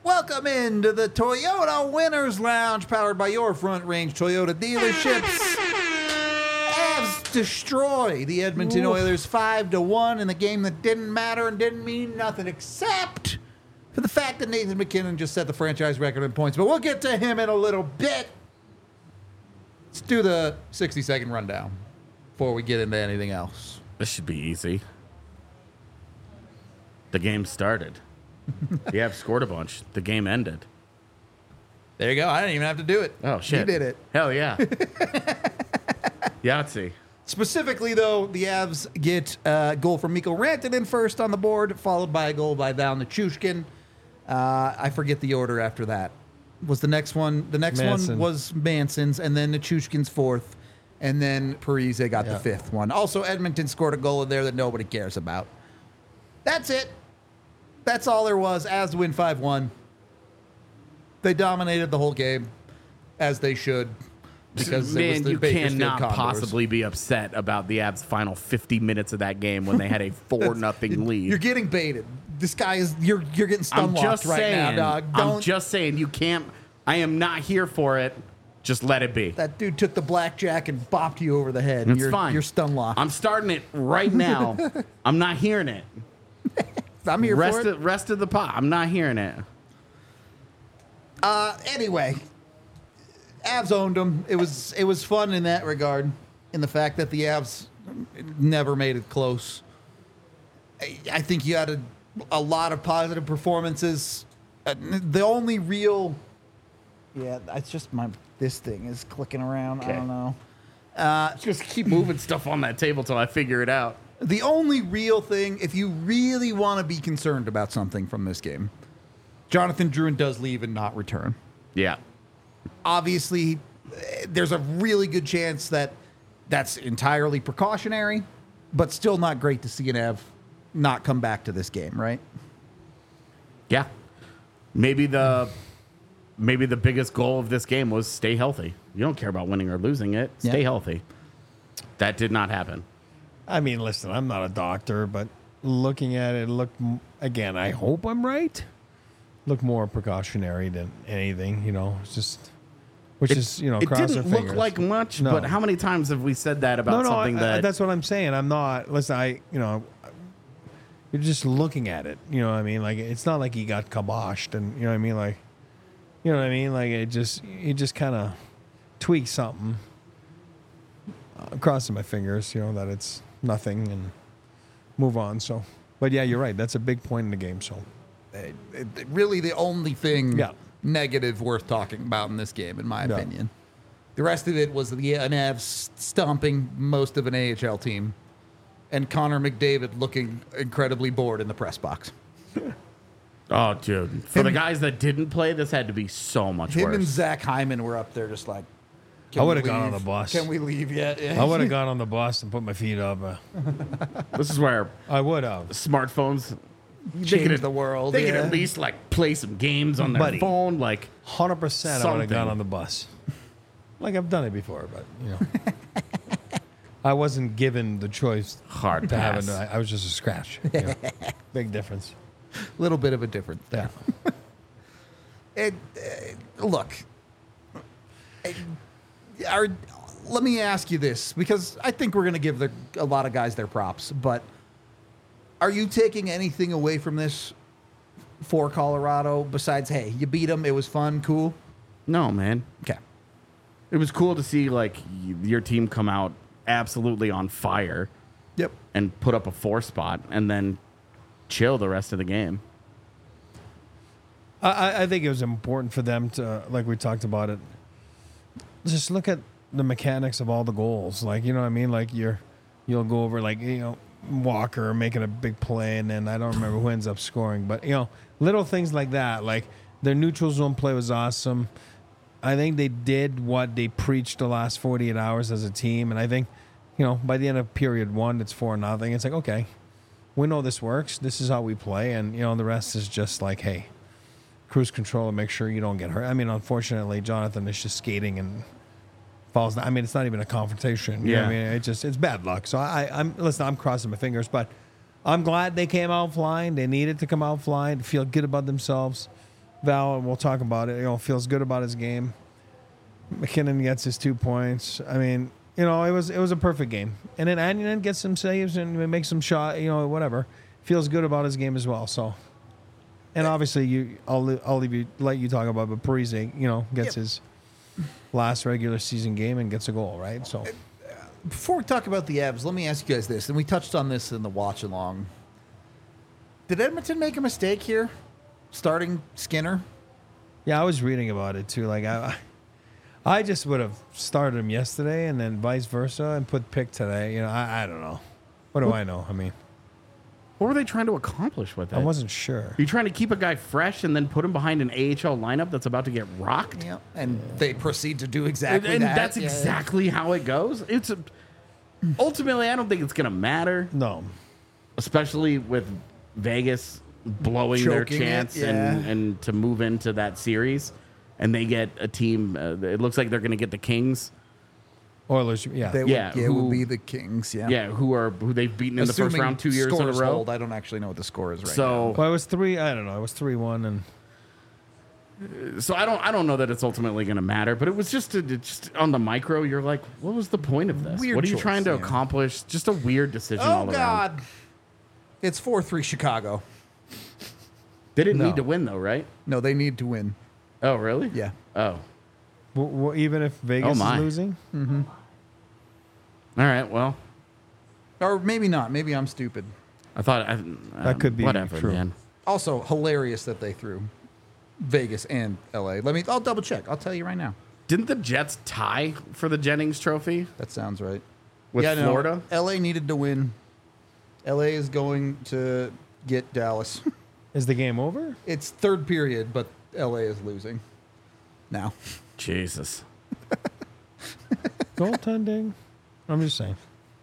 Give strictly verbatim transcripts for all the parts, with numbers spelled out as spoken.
Welcome into the Toyota Winners Lounge, powered by your Front Range Toyota dealerships. Avs destroy the Edmonton Oof. Oilers five to one in the game that didn't matter and didn't mean nothing except for the fact that Nathan MacKinnon just set the franchise record in points. But we'll get to him in a little bit. Let's do the sixty-second rundown before we get into anything else. This should be easy. The game started. The Avs scored a bunch. The game ended. There you go. I didn't even have to do it. Oh, shit. You did it. Hell yeah. Yahtzee. Specifically, though, the Avs get a goal from Mikko Rantanen first on the board, followed by a goal by Val Nichushkin. Uh, I forget the order after that. Was the next one? The next Manson. one was Manson's, and then Nichushkin's fourth, and then Parise got Yeah. the fifth one. Also, Edmonton scored a goal in there that nobody cares about. That's it. That's all there was. Avs win five one. They dominated the whole game, as they should. Because it was Man, the you Bakersfield cannot Condors. possibly be upset about the Avs' final fifty minutes of that game when they had a four nothing lead. You're getting baited. This guy is you're you're getting stun I'm locked just right saying. now, dog. Don't. I'm just saying you can't. I am not here for it. Just let it be. That dude took the blackjack and bopped you over the head. It's you're, fine. You're stun locked. I'm starting it right now. I'm not hearing it. I'm here rest for it. of, rest of the pot. I'm not hearing it. Uh, anyway, Avs owned them. It was it was fun in that regard, in the fact that the Avs never made it close. I, I think you had a, a lot of positive performances. Uh, the only real, yeah, it's just my this thing is clicking around. I Okay. don't know. Just keep moving stuff on that table till I figure it out. The only real thing, if you really want to be concerned about something from this game, Jonathan Drouin does leave and not return. Yeah. Obviously, eh, there's a really good chance that that's entirely precautionary, but still not great to see an Av not come back to this game, right? Yeah. Maybe the maybe the biggest goal of this game was stay healthy. You don't care about winning or losing it. Stay Yeah. healthy. That did not happen. I mean, listen, I'm not a doctor, but looking at it, look again. I hope I'm right. Look more precautionary than anything, you know. It's just, which It, is, you know, it cross didn't our look fingers. like much, No. but how many times have we said that about no, no, something I- that I, that's what I'm saying. I'm not. Listen, I, you know, you're just looking at it. You know what I mean? Like it's not like he got kiboshed, and you know what I mean? Like, you know what I mean? Like it just, he just kind of tweaked something. I'm crossing my fingers, you know, that it's nothing and move on. So, but yeah, you're right. That's a big point in the game. So, Eh, eh, really, the only thing Yeah. negative worth talking about in this game, in my Yeah. opinion. The rest of it was the an Avs stomping most of an A H L team, and Connor McDavid looking incredibly bored in the press box. Oh, dude. For the Him- guys that didn't play, this had to be so much Him worse. and Zach Hyman were up there just like, can I we would've gone leave? on the bus. Can we leave yet? Yeah. I would have gone on the bus and put my feet up. Uh, This is where I would have. smartphones they Change could- the world, They could yeah. at least like play some games on their Buddy. phone. Like, one hundred percent I would have Something. gone on the bus. Like I've done it before, but, you know. I wasn't given the choice Hard to have pass. it. I I was just a scratch. you know. Big difference. little bit of a difference there. Yeah. It, uh, look, uh, are, let me ask you this, because I think we're going to give the, a lot of guys their props, but are you taking anything away from this for Colorado besides, hey, you beat them, it was fun, cool? no, man. Okay. It was cool to see like y- your team come out absolutely on fire Yep. and put up a four spot and then chill the rest of the game. I- I, I think it was important for them to, like we talked about it, just look at the mechanics of all the goals. Like, you know what I mean? Like you're, you'll go over like, you know, Walker making a big play, and then I don't remember who ends up scoring, but you know, little things like that. Like their neutral zone play was awesome. I think they did what they preached the last forty-eight hours as a team, and I think, you know, by the end of period one, it's four nothing. It's like, okay, we know this works. This is how we play, and you know, the rest is just like, hey, cruise control and make sure you don't get hurt. I mean, unfortunately, Jonathan is just skating and falls down. I mean, it's not even a confrontation. You know what I Yeah. mean, it just it's bad luck. So I, I'm listen. I'm crossing my fingers, but I'm glad they came out flying. They needed to come out flying to feel good about themselves. Val, we'll talk about it. You know, feels good about his game. McKinnon gets his two points. I mean, you know, it was it was a perfect game. And then Annunen gets some saves and makes some shot. You know, whatever. Feels good about his game as well. So, and obviously, you I'll I'll leave you let you talk about, it, but Parise, you know, gets Yep. his last regular season game and gets a goal, right? So, Before we talk about the Avs, let me ask you guys this, and we touched on this in the watch along. Did Edmonton make a mistake here, starting Skinner? yeah, I was reading about it too. Like I, I just would have started him yesterday and then vice versa and put pick today. You know, I, I don't know. What do I know? I mean, What were they trying to accomplish with it? I wasn't sure. Are you trying to keep a guy fresh and then put him behind an A H L lineup that's about to get rocked? Yeah, and they proceed to do And, exactly and that. that's Yeah. exactly how it goes. It's a, ultimately, I don't think it's going to matter, No. especially with Vegas blowing their Choking it, chance yeah. and, and to move into that series. And they get a team, uh, it looks like they're going to get the Kings. Oilers, yeah. They would, Yeah, yeah, it who- would be the Kings. Yeah, Yeah, who are who they've beaten in the first Assuming round two years in a scores row. hold, I don't actually know what the score is right So- now. well, it was three. I don't know. It was three one, and So I don't I don't know that it's ultimately going to matter, but it was just a, just on the micro. You're like, what was the point of this? Weird what are you choice, trying to yeah. accomplish? Just a weird decision Oh all around. God, it's four three Chicago. They didn't No. need to win though, right? No, they need to win. Oh really? Yeah. Oh, w- w- even if Vegas Oh, my. is losing, all right. Well, Or maybe not. Maybe I'm stupid. I thought I, That could be whatever, true. man. Also, hilarious that they threw Vegas and L A. Let me. I'll double check. I'll tell you right now. Didn't the Jets tie for the Jennings Trophy That sounds right. with yeah, no, Florida? L A needed to win. L A is going to get Dallas. is the game over? It's third period, but L A is losing now. Jesus. Goaltending. I'm just saying.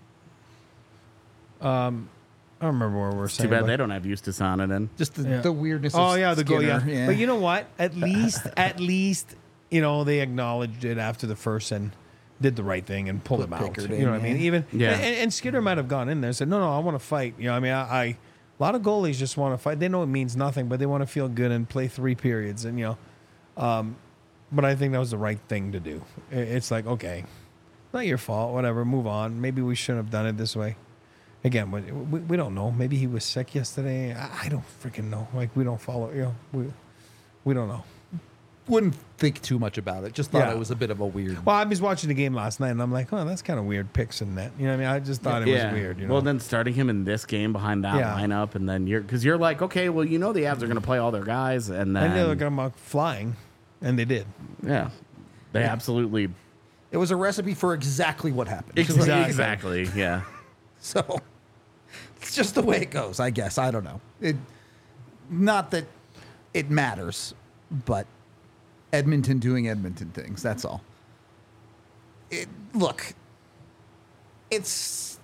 Um, I don't remember what we we're Too saying. bad but- they don't have Eustace on it. And Just the, Yeah. the weirdness. Oh of yeah, the goal. Skinner, Yeah. but you know what? At least, at least, you know, they acknowledged it after the first and did the right thing and pulled Put him out. Pickard You in, know what I mean? yeah. Even Yeah. And, and Skinner might have gone in there and said, "No, no, I want to fight." You know, I mean, I, I a lot of goalies just want to fight. They know it means nothing, but they want to feel good and play three periods. And you know, um, but I think that was the right thing to do. I- It's like, okay, not your fault. Whatever, move on. Maybe we shouldn't have done it this way. Again, we, we, we don't know. Maybe he was sick yesterday. I, I don't freaking know. Like we don't follow. You know, we we don't know. Wouldn't think too much about it. Just thought Yeah. it was a bit of a weird. Well, I was watching the game last night, and I'm like, oh, that's kind of weird picks in that. You know what I mean? I just thought it was weird. You know? Well, then starting him in this game behind that Yeah. lineup, and then you're because you're like, okay, well, you know the Avs are going to play all their guys, and then and they were going to flying, and they did. yeah, they absolutely It was a recipe for exactly what happened. exactly, Exactly. exactly yeah. So it's just the way it goes, I guess. I don't know. It, not that it matters, but Edmonton doing Edmonton things. That's all. It, look, it's.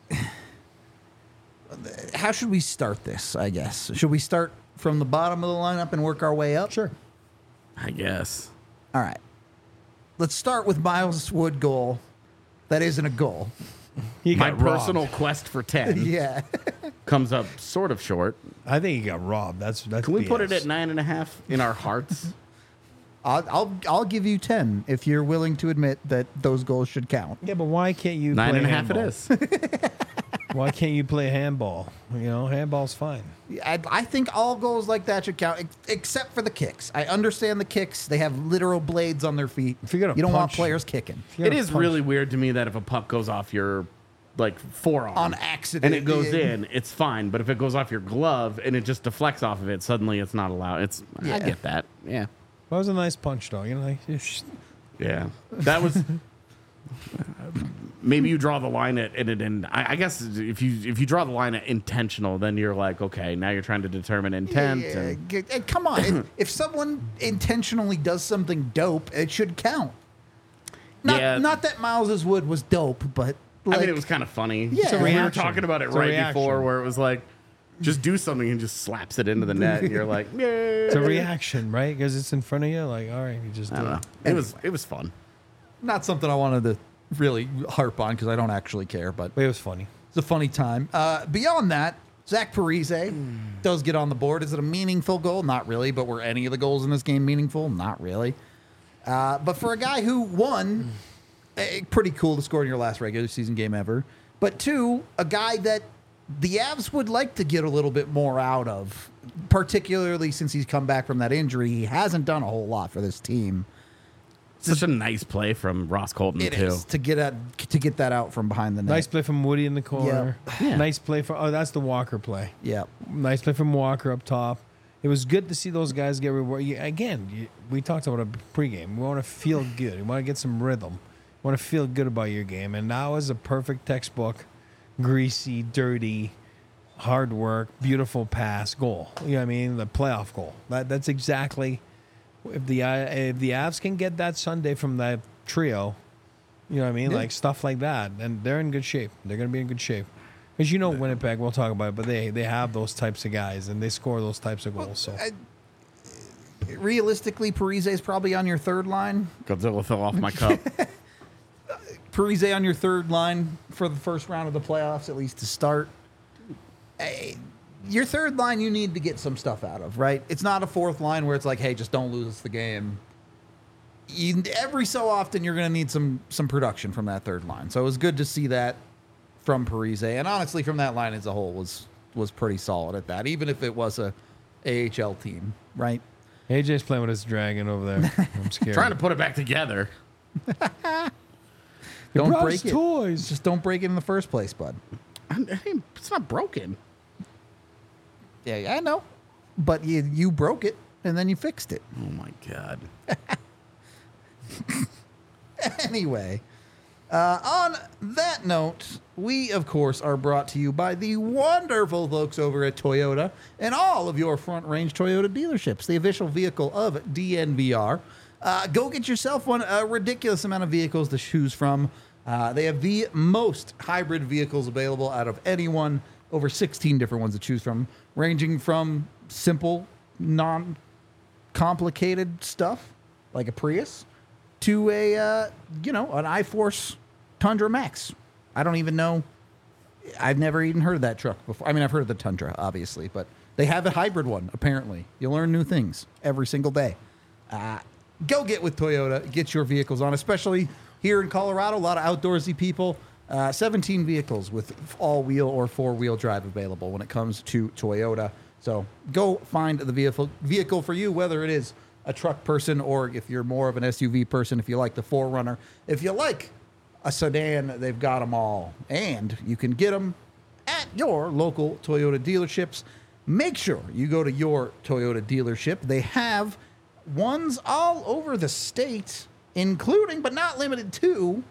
How should we start this, I guess? Should we start from the bottom of the lineup and work our way up? Sure. I guess. All right. Let's start with Miles Wood goal. That isn't a goal. He My got robbed. personal quest for ten Yeah. comes up sort of short. I think he got robbed. That's that's. Can we put B it S. at nine and a half in our hearts? I'll, I'll I'll give you ten if you're willing to admit that those goals should count. Yeah, but why can't you Nine play and a half it handball? is. Why can't you play handball? You know, handball's fine. I, I think all goals like that should count, ex- except for the kicks. I understand the kicks; they have literal blades on their feet. If you're gonna you don't want punch- players kicking If you're It gonna is punch- really weird to me that if a puck goes off your like forearm on accident, and it goes Yeah. in, it's fine. But if it goes off your glove and it just deflects off of it, suddenly it's not allowed. It's I Yeah. get that. Yeah, That was a nice punch, though. You know, like, it's- yeah. That was. Maybe you draw the line at, at it, and I, I guess if you if you draw the line at intentional, then you're like, okay, now you're trying to determine intent. Yeah, and, g- and come on, if, if someone intentionally does something dope, it should count. Not Yeah. not that Miles's Wood was dope, but like, I mean, it was kind of funny. Yeah. It's a we were reaction. talking about it It's a right reaction. before, where it was like, just do something and just slaps it into the net, and you're like, yeah. it's a reaction, right? Because it's in front of you. Like, all right, you just I do don't it. know. It was it was fun. not something I wanted to really harp on because I don't actually care, but But it was funny. it's a funny time. Uh, beyond that, Zach Parise does get on the board. Is it a meaningful goal? Not really. But were any of the goals in this game meaningful? Not really. Uh, but for a guy who, one, eh, pretty cool to score in your last regular season game ever. But two, a guy that the Avs would like to get a little bit more out of, particularly since he's come back from that injury. He hasn't done a whole lot for this team. Such a nice play from Ross Colton, It too. is to get at, to get that out from behind the net. Nice play from Woody in the corner. Yeah. Nice play for. Oh, that's the Walker play. Yeah. Nice play from Walker up top. It was good to see those guys get rewarded. You- Again, you, we talked about a pregame. We want to feel good. We want to get some rhythm. We want to feel good about your game. And now is a perfect textbook, greasy, dirty, hard work, beautiful pass goal. You know what I mean? The playoff goal. That, that's exactly. If the uh, if the Avs can get that Sunday from that trio, you know what I mean? Yeah. Like stuff like that, and they're in good shape. They're going to be in good shape. Because you know Winnipeg, we'll talk about it, but they, they have those types of guys, and they score those types of goals. So I, realistically, Parise is probably on your third line. Godzilla fell off my cup. Parise on your third line for the first round of the playoffs, at least to start. Eh, Your third line, you need to get some stuff out of, right? It's not a fourth line where it's like, hey, just don't lose us the game. You, every so often, you're going to need some some production from that third line. So it was good to see that from Parise, and honestly, from that line as a whole, was was pretty solid at that, even if it was a A H L team, right? A J's playing with his dragon over there. I'm scared. Trying to put it back together. Don't brought break us it. toys. Just don't break it in the first place, bud. I mean, it's not broken. Yeah, I know, but you you broke it and then you fixed it. Oh, my God. Anyway, uh, on that note, we, of course, are brought to you by the wonderful folks over at Toyota and all of your Front Range Toyota dealerships, the official vehicle of D N V R. Uh, go get yourself one, a ridiculous amount of vehicles to choose from. Uh, they have the most hybrid vehicles available out of anyone, over sixteen different ones to choose from, ranging from simple, non-complicated stuff, like a Prius, to a, uh, you know, an iForce Tundra Max. I don't even know. I've never even heard of that truck before. I mean, I've heard of the Tundra, obviously, but they have a hybrid one, apparently. You learn new things every single day. Uh, go get with Toyota. Get your vehicles on, especially here in Colorado. A lot of outdoorsy people. Uh, seventeen vehicles with all-wheel or four-wheel drive available when it comes to Toyota. So go find the vehicle vehicle for you, whether it is a truck person or if you're more of an S U V person, if you like the four runner. If you like a sedan, they've got them all. And you can get them at your local Toyota dealerships. Make sure you go to your Toyota dealership. They have ones all over the state, including but not limited to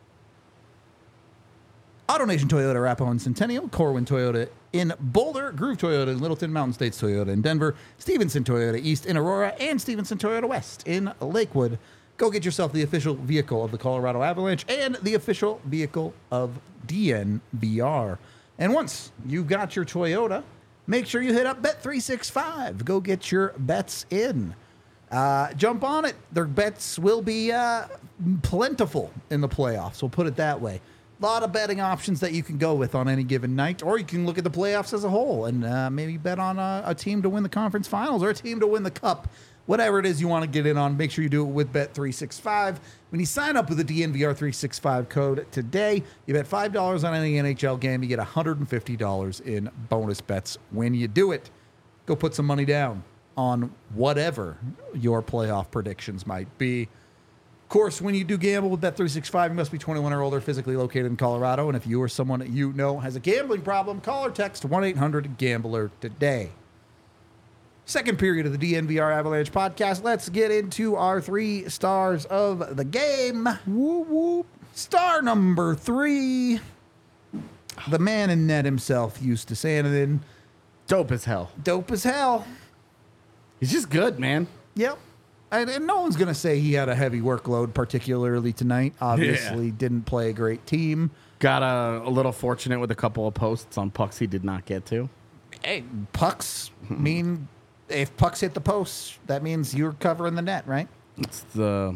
AutoNation Toyota, Arapahoe and Centennial, Corwin Toyota in Boulder, Groove Toyota in Littleton, Mountain States Toyota in Denver, Stevenson Toyota East in Aurora, and Stevenson Toyota West in Lakewood. Go get yourself the official vehicle of the Colorado Avalanche and the official vehicle of D N V R. And once you've got your Toyota, make sure you hit up Bet three sixty-five. Go get your bets in. Uh, jump on it. Their bets will be uh, plentiful in the playoffs. We'll put it that way. A lot of betting options that you can go with on any given night, or you can look at the playoffs as a whole and uh, maybe bet on a, a team to win the conference finals or a team to win the cup. Whatever it is you want to get in on, make sure you do it with Bet three sixty-five. When you sign up with the D N V R three sixty-five code today, you bet five dollars on any N H L game, you get one hundred fifty dollars in bonus bets when you do it. Go put some money down on whatever your playoff predictions might be. Of course, when you do gamble with Bet three sixty-five, you must be twenty-one or older, physically located in Colorado. And if you or someone that you know has a gambling problem, call or text one eight hundred gambler today. Second period of the D N V R Avalanche podcast. Let's get into our three stars of the game. Whoop, whoop. Star number three, the man in net himself, Eustace Anadin. Dope as hell. Dope as hell. He's just good, man. Yep. And, and no one's going to say he had a heavy workload, particularly tonight. Obviously, Yeah. didn't play a great team. Got a, a little fortunate with a couple of posts on pucks he did not get to. Hey, pucks mean if pucks hit the post, that means you're covering the net, right? It's the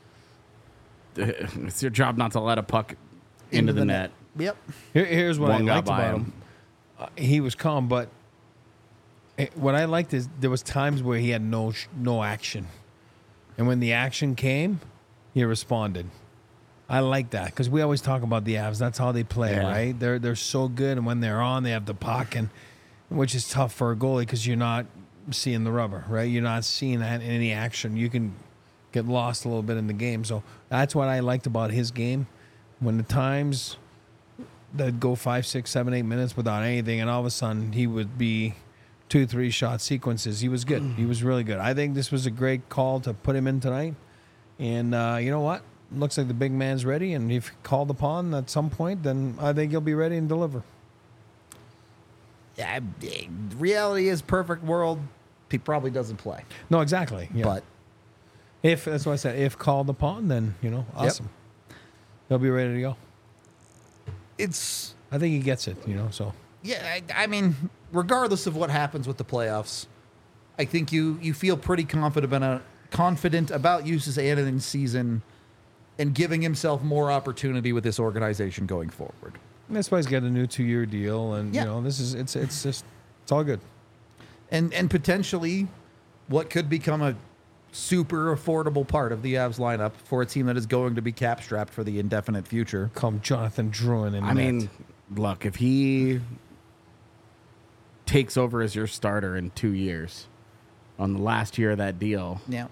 it's your job not to let a puck into, the, net. Yep. Here, here's what One I got liked by about him. him. uh, he was calm, but it, what I liked is there was times where he had no sh- no action, and when the action came, he responded. I like that because we always talk about the Avs. That's how they play, Yeah. right? They're they're so good, and when they're on, they have the puck, and which is tough for a goalie because you're not seeing the rubber, right? You're not seeing that in any action. You can get lost a little bit in the game. So that's what I liked about his game. When the times that go five, six, seven, eight minutes without anything, and all of a sudden he would be two, three shot sequences. He was good. He was really good. I think this was a great call to put him in tonight. And uh, you know what? Looks like the big man's ready, and if called upon at some point, then I think he'll be ready and deliver. Yeah, reality is perfect world. He probably doesn't play, No, exactly. Yeah. but if that's what I said, if called upon, then you know, awesome. He'll be ready to go. it's I think he gets it. You know, so yeah. I, I mean, regardless of what happens with the playoffs, I think you you feel pretty confident about confident about Justus Anunen's season and giving himself more opportunity with this organization going forward. that's why he's got a new two-year deal, and Yeah. you know, this is it's it's just it's all good. And and potentially what could become a super affordable part of the Avs lineup for a team that is going to be cap strapped for the indefinite future. Come Jonathan Drouin in I net. mean, look, if he takes over as your starter in two years on the last year of that deal, Yeah.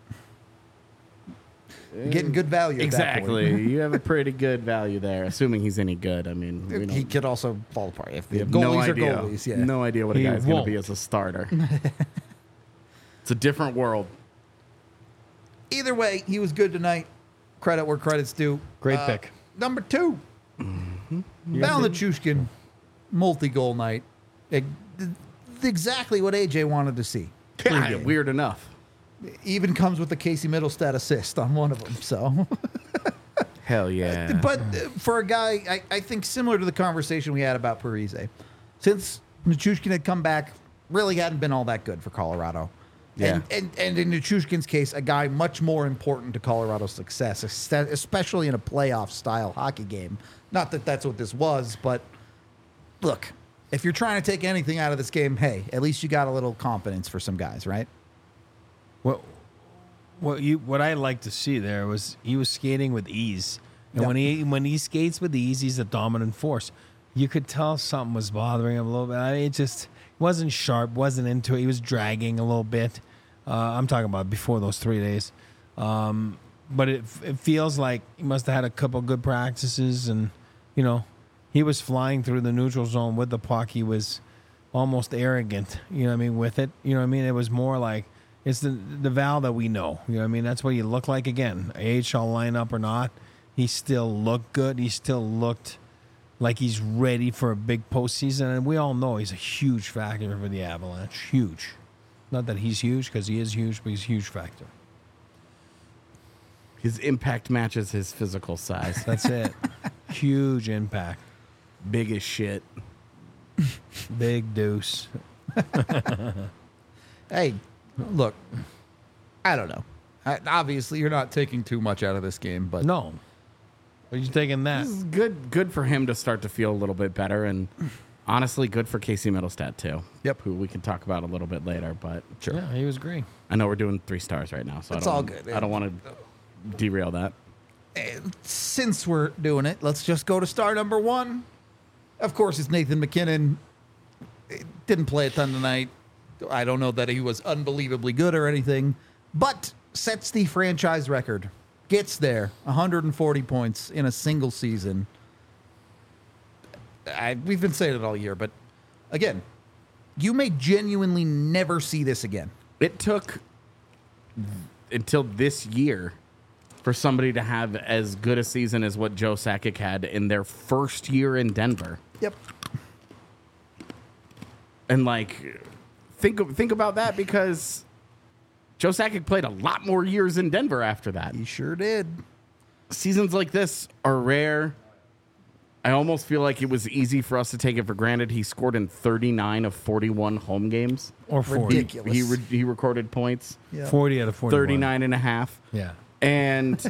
You're getting good value. At that point. exactly, you have a pretty good value there, assuming he's any good. I mean, we He don't, could also fall apart if we the have goalies no are idea. goalies. Yeah. No idea what a He guy's going to be won't. as a starter. It's a different world. Either way, he was good tonight. Credit where credit's due. Great Uh, pick. Number two, Val Nichushkin, multi-goal night. Ex- Exactly what A J wanted to see. Yeah, Pre-game. weird enough. Even comes with the Casey Middlestat assist on one of them. So, Hell yeah. but uh, for a guy, I, I think similar to the conversation we had about Parise, since Nichushkin had come back, really hadn't been all that good for Colorado. And, Yeah. and, and in Nichushkin's case, a guy much more important to Colorado's success, es- especially in a playoff style hockey game. Not that that's what this was, but look, if you're trying to take anything out of this game, hey, at least you got a little confidence for some guys, right? What what you what I like to see there was he was skating with ease, and Yep. when he when he skates with ease, he's a dominant force. You could tell something was bothering him a little bit. I mean, it just wasn't sharp, wasn't into it. He was dragging a little bit. Uh, I'm talking about before those three days, um, but it it feels like he must have had a couple good practices, and you know, he was flying through the neutral zone with the puck. He was almost arrogant, you know what I mean, with it. You know what I mean? It was more like it's the the Val that we know. You know what I mean? That's what he looked like again. A H L lineup or not, he still looked good. He still looked like he's ready for a big postseason. And we all know he's a huge factor for the Avalanche. Huge. Not that he's huge, because he is huge, but he's a huge factor. His impact matches his physical size. That's it. Huge impact. Big as shit. Big deuce. Hey, look, I don't know. I, obviously, you're not taking too much out of this game, but No. Are you taking that? This is good good for him to start to feel a little bit better, and honestly good for Casey Middlestat too. Yep. Who we can talk about a little bit later, but sure. Yeah, he was great. I know we're doing three stars right now, so It's I don't, all good. I don't want to derail that. Since we're doing it, let's just go to star number one. Of course, it's Nathan McKinnon. Didn't play a ton tonight. I don't know that he was unbelievably good or anything, but sets the franchise record. Gets there, one hundred forty points in a single season. I, we've been saying it all year, but again, you may genuinely never see this again. It took until this year for somebody to have as good a season as what Joe Sakic had in their first year in Denver. Yep. And like, think think about that, because Joe Sakic played a lot more years in Denver after that. He sure did. Seasons like this are rare. I almost feel like it was easy for us to take it for granted. He scored in thirty-nine of forty-one home games. Or forty. Ridiculous. He re- he recorded points, Yeah. forty out of forty. thirty-nine and a half. Yeah. And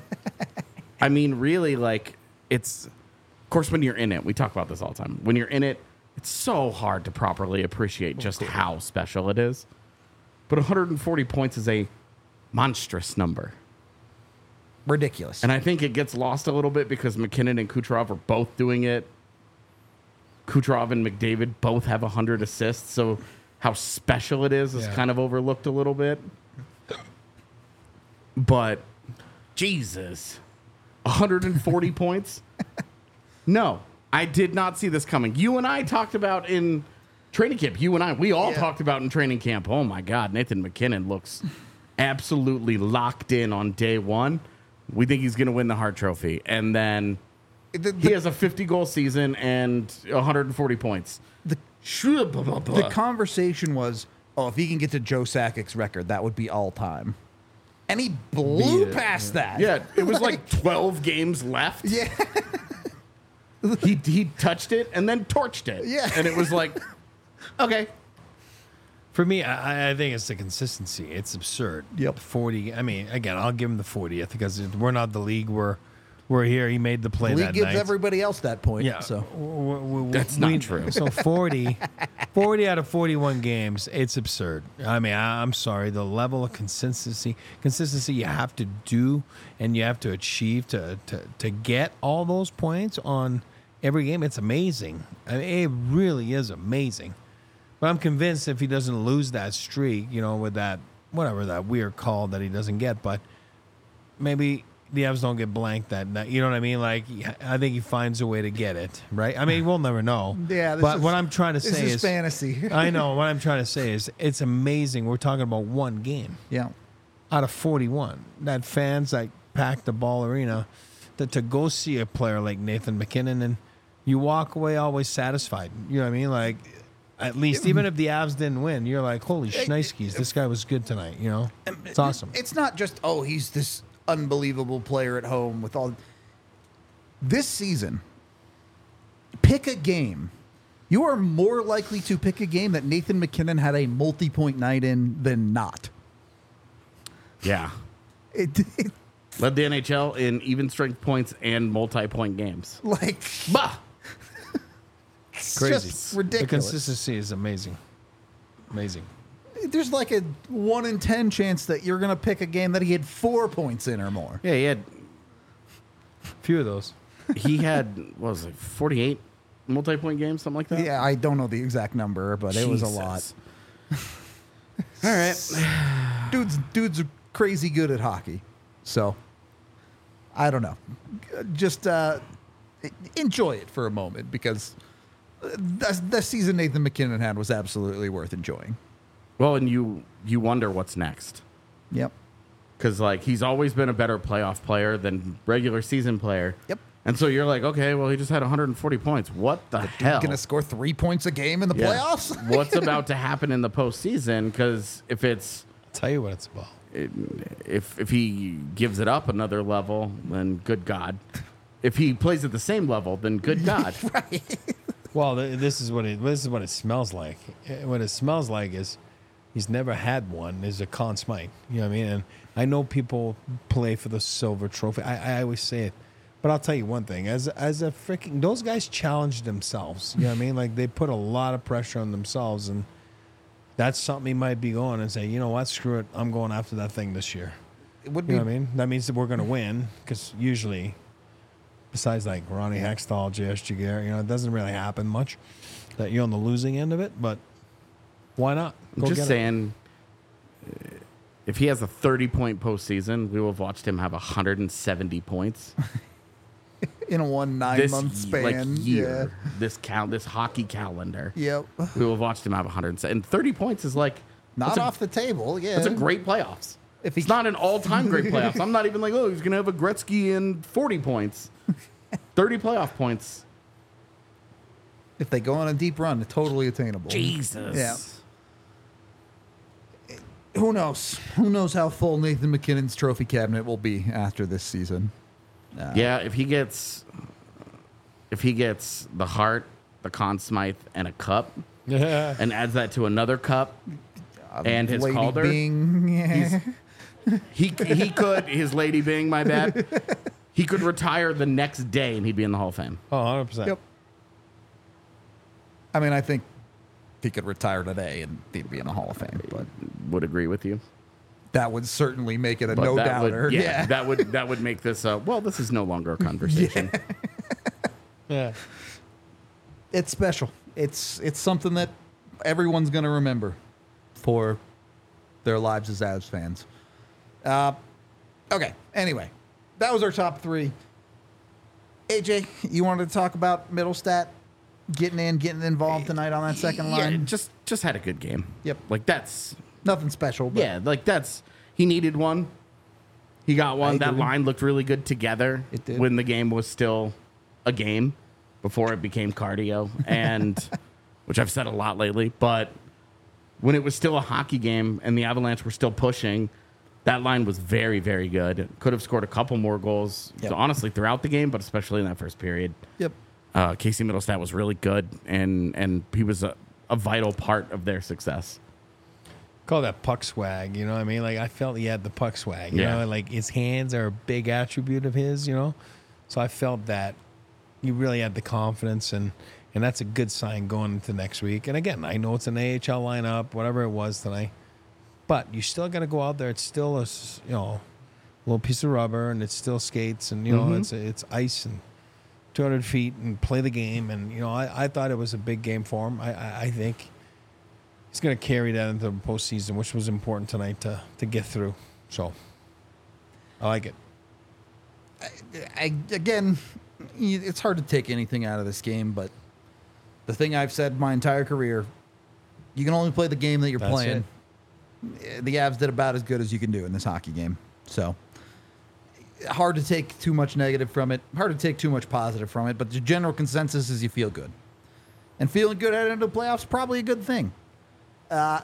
I mean, really, like, it's, of course, when you're in it, we talk about this all the time. When you're in it, It's so hard to properly appreciate just how special it is. But one hundred forty points is a monstrous number. Ridiculous. And I think it gets lost a little bit because McKinnon and Kucherov are both doing it. Kucherov and McDavid both have one hundred assists, so how special it is is Yeah. kind of overlooked a little bit. But, Jesus, one hundred forty points? No, I did not see this coming. You and I talked about in training camp. You and I, we all Yeah. talked about in training camp. Oh, my God, Nathan McKinnon looks absolutely locked in on day one. We think he's going to win the Hart Trophy. And then The, he the, has a fifty-goal season and one hundred forty points. the, the conversation was, oh, if he can get to Joe Sakic's record, that would be all time. And he blew Beat it. past that. Yeah, it was like twelve games left. Yeah. He, he touched it and then torched it. Yeah. And it was like, okay. For me, I, I think it's the consistency. It's absurd. Yep. forty. I mean, again, I'll give him the fortieth because we're not the league. We're we're here. He made the play League that gives night. everybody else that point. Yeah. So w- w- That's we- not true. So forty, forty out of forty-one games, it's absurd. I mean, I, I'm sorry. The level of consistency, consistency you have to do and you have to achieve to to, to get all those points on every game, it's amazing. I mean, it really is amazing. But I'm convinced if he doesn't lose that streak, you know, with that, whatever, that weird call that he doesn't get, but maybe the Avs don't get blanked that night. You know what I mean? Like, I think he finds a way to get it, right? I mean, we'll never know. Yeah, this But is- what I'm trying to this say is is, fantasy. I know, what I'm trying to say is, it's amazing. We're talking about one game yeah. out of forty-one. That fans that packed the Ball Arena, that to go see a player like Nathan McKinnon and you walk away always satisfied. You know what I mean? Like, at least, even if the Avs didn't win, you're like, holy shnikes, this guy was good tonight, you know? It's awesome. It's not just, oh, he's this unbelievable player at home with all. This season, pick a game. You are more likely to pick a game that Nathan McKinnon had a multi-point night in than not. Yeah. It, it Led the N H L in even strength points and multi-point games. like Bah! it's Crazy. just The ridiculous. consistency is amazing. Amazing. There's like a one in ten chance that you're gonna pick a game that he had four points in or more. Yeah, he had Few of those. he had what was it, forty-eight multi-point games, something like that? Yeah, I don't know the exact number, but it was a lot. Jesus. All right. Dude's dude's crazy good at hockey, so I don't know. Just uh, enjoy it for a moment because the, the season Nathan McKinnon had was absolutely worth enjoying. Well, and you you wonder what's next. Yep. Because, like, he's always been a better playoff player than regular season player. Yep. And so you're like, okay, well, he just had one hundred forty points. What the hell? Gonna score three points a game in the Yeah. playoffs? What's about to happen in the postseason? Because if it's I'll tell you what it's about. if if he gives it up another level, then good God. If he plays at the same level, then good God. Well, th- this is what it this is what it smells like. Eh, What it smells like is he's never had one. Is a Conn Smythe. You know what I mean? And I know people play for the silver trophy. I, I always say it, but I'll tell you one thing: as as a freaking those guys challenge themselves. You know what I mean? Like they put a lot of pressure on themselves, and that's something he might be going and say, you know what? Screw it. I'm going after that thing this year. It would You be know what I mean? That means that we're going to win because usually, besides like Ronnie Hextall, J S. Giguere, you know, it doesn't really happen much that you're on the losing end of it, but why not? I'm Go just get it. saying, uh, if he has a thirty-point postseason, we will have watched him have one hundred seventy points in a one nine this month y- like span. year. This count, this hockey calendar. Yeah. Yep. We will have watched him have one hundred seventy. And thirty points is like Not that's a- off the table. Yeah. That's a great playoffs. If he- it's not an all-time great playoffs. I'm not even like, oh, he's gonna have a Gretzky and forty points, thirty playoff points. If they go on a deep run, it's totally attainable. Jesus. Yeah. Who knows? Who knows how full Nathan McKinnon's trophy cabinet will be after this season? Yeah, if he gets, if he gets the Hart, the Conn Smythe, and a cup, Yeah. and adds that to another cup, and his Lady Calder, Bing, yeah. he he could his Lady Bing, my bad. He could retire the next day and he'd be in the Hall of Fame. Oh, one hundred percent. Yep. I mean, I think he could retire today and he'd be in the Hall of Fame, but Would agree with you. that would certainly make it a But no that doubter. would, yeah, Yeah. that would that would make this. Uh, well, this is no longer a conversation. Yeah. It's special. It's it's something that everyone's going to remember for their lives as Avs fans. Uh, okay. Anyway, that was our top three. A J, you wanted to talk about Middlestat getting in, getting involved tonight on that second Yeah, line? just just had a good game. Yep. Like that's Nothing special. But yeah, like that's he needed one. He got one. I That agree. line looked really good together. It did. When the game was still a game before it became cardio, and which I've said a lot lately, but when it was still a hockey game and the Avalanche were still pushing, that line was very, very good. Could have scored a couple more goals, Yep. honestly, throughout the game, but especially in that first period. Yep. Uh, Casey Middlestat was really good, and and he was a, a vital part of their success. Call that puck swag, you know what I mean? Like, I felt he had the puck swag, you Yeah. know? Like, his hands are a big attribute of his, you know? So I felt that he really had the confidence, and, and that's a good sign going into next week. And again, I know it's an A H L lineup, whatever it was tonight, but you still got to go out there. It's still a, s- you know, little piece of rubber, and it's still skates, and, you know, Mhm. it's it's ice and two hundred feet and play the game. And, you know, I, I thought it was a big game for him. I, I, I think he's going to carry that into the postseason, which was important tonight to, to get through. So I like it. I, again, it's hard to take anything out of this game, but the thing I've said my entire career, you can only play the game that you're That's playing. The Avs did about as good as you can do in this hockey game. So hard to take too much negative from it, hard to take too much positive from it, but the general consensus is you feel good. And feeling good heading into the playoffs is probably a good thing. Uh,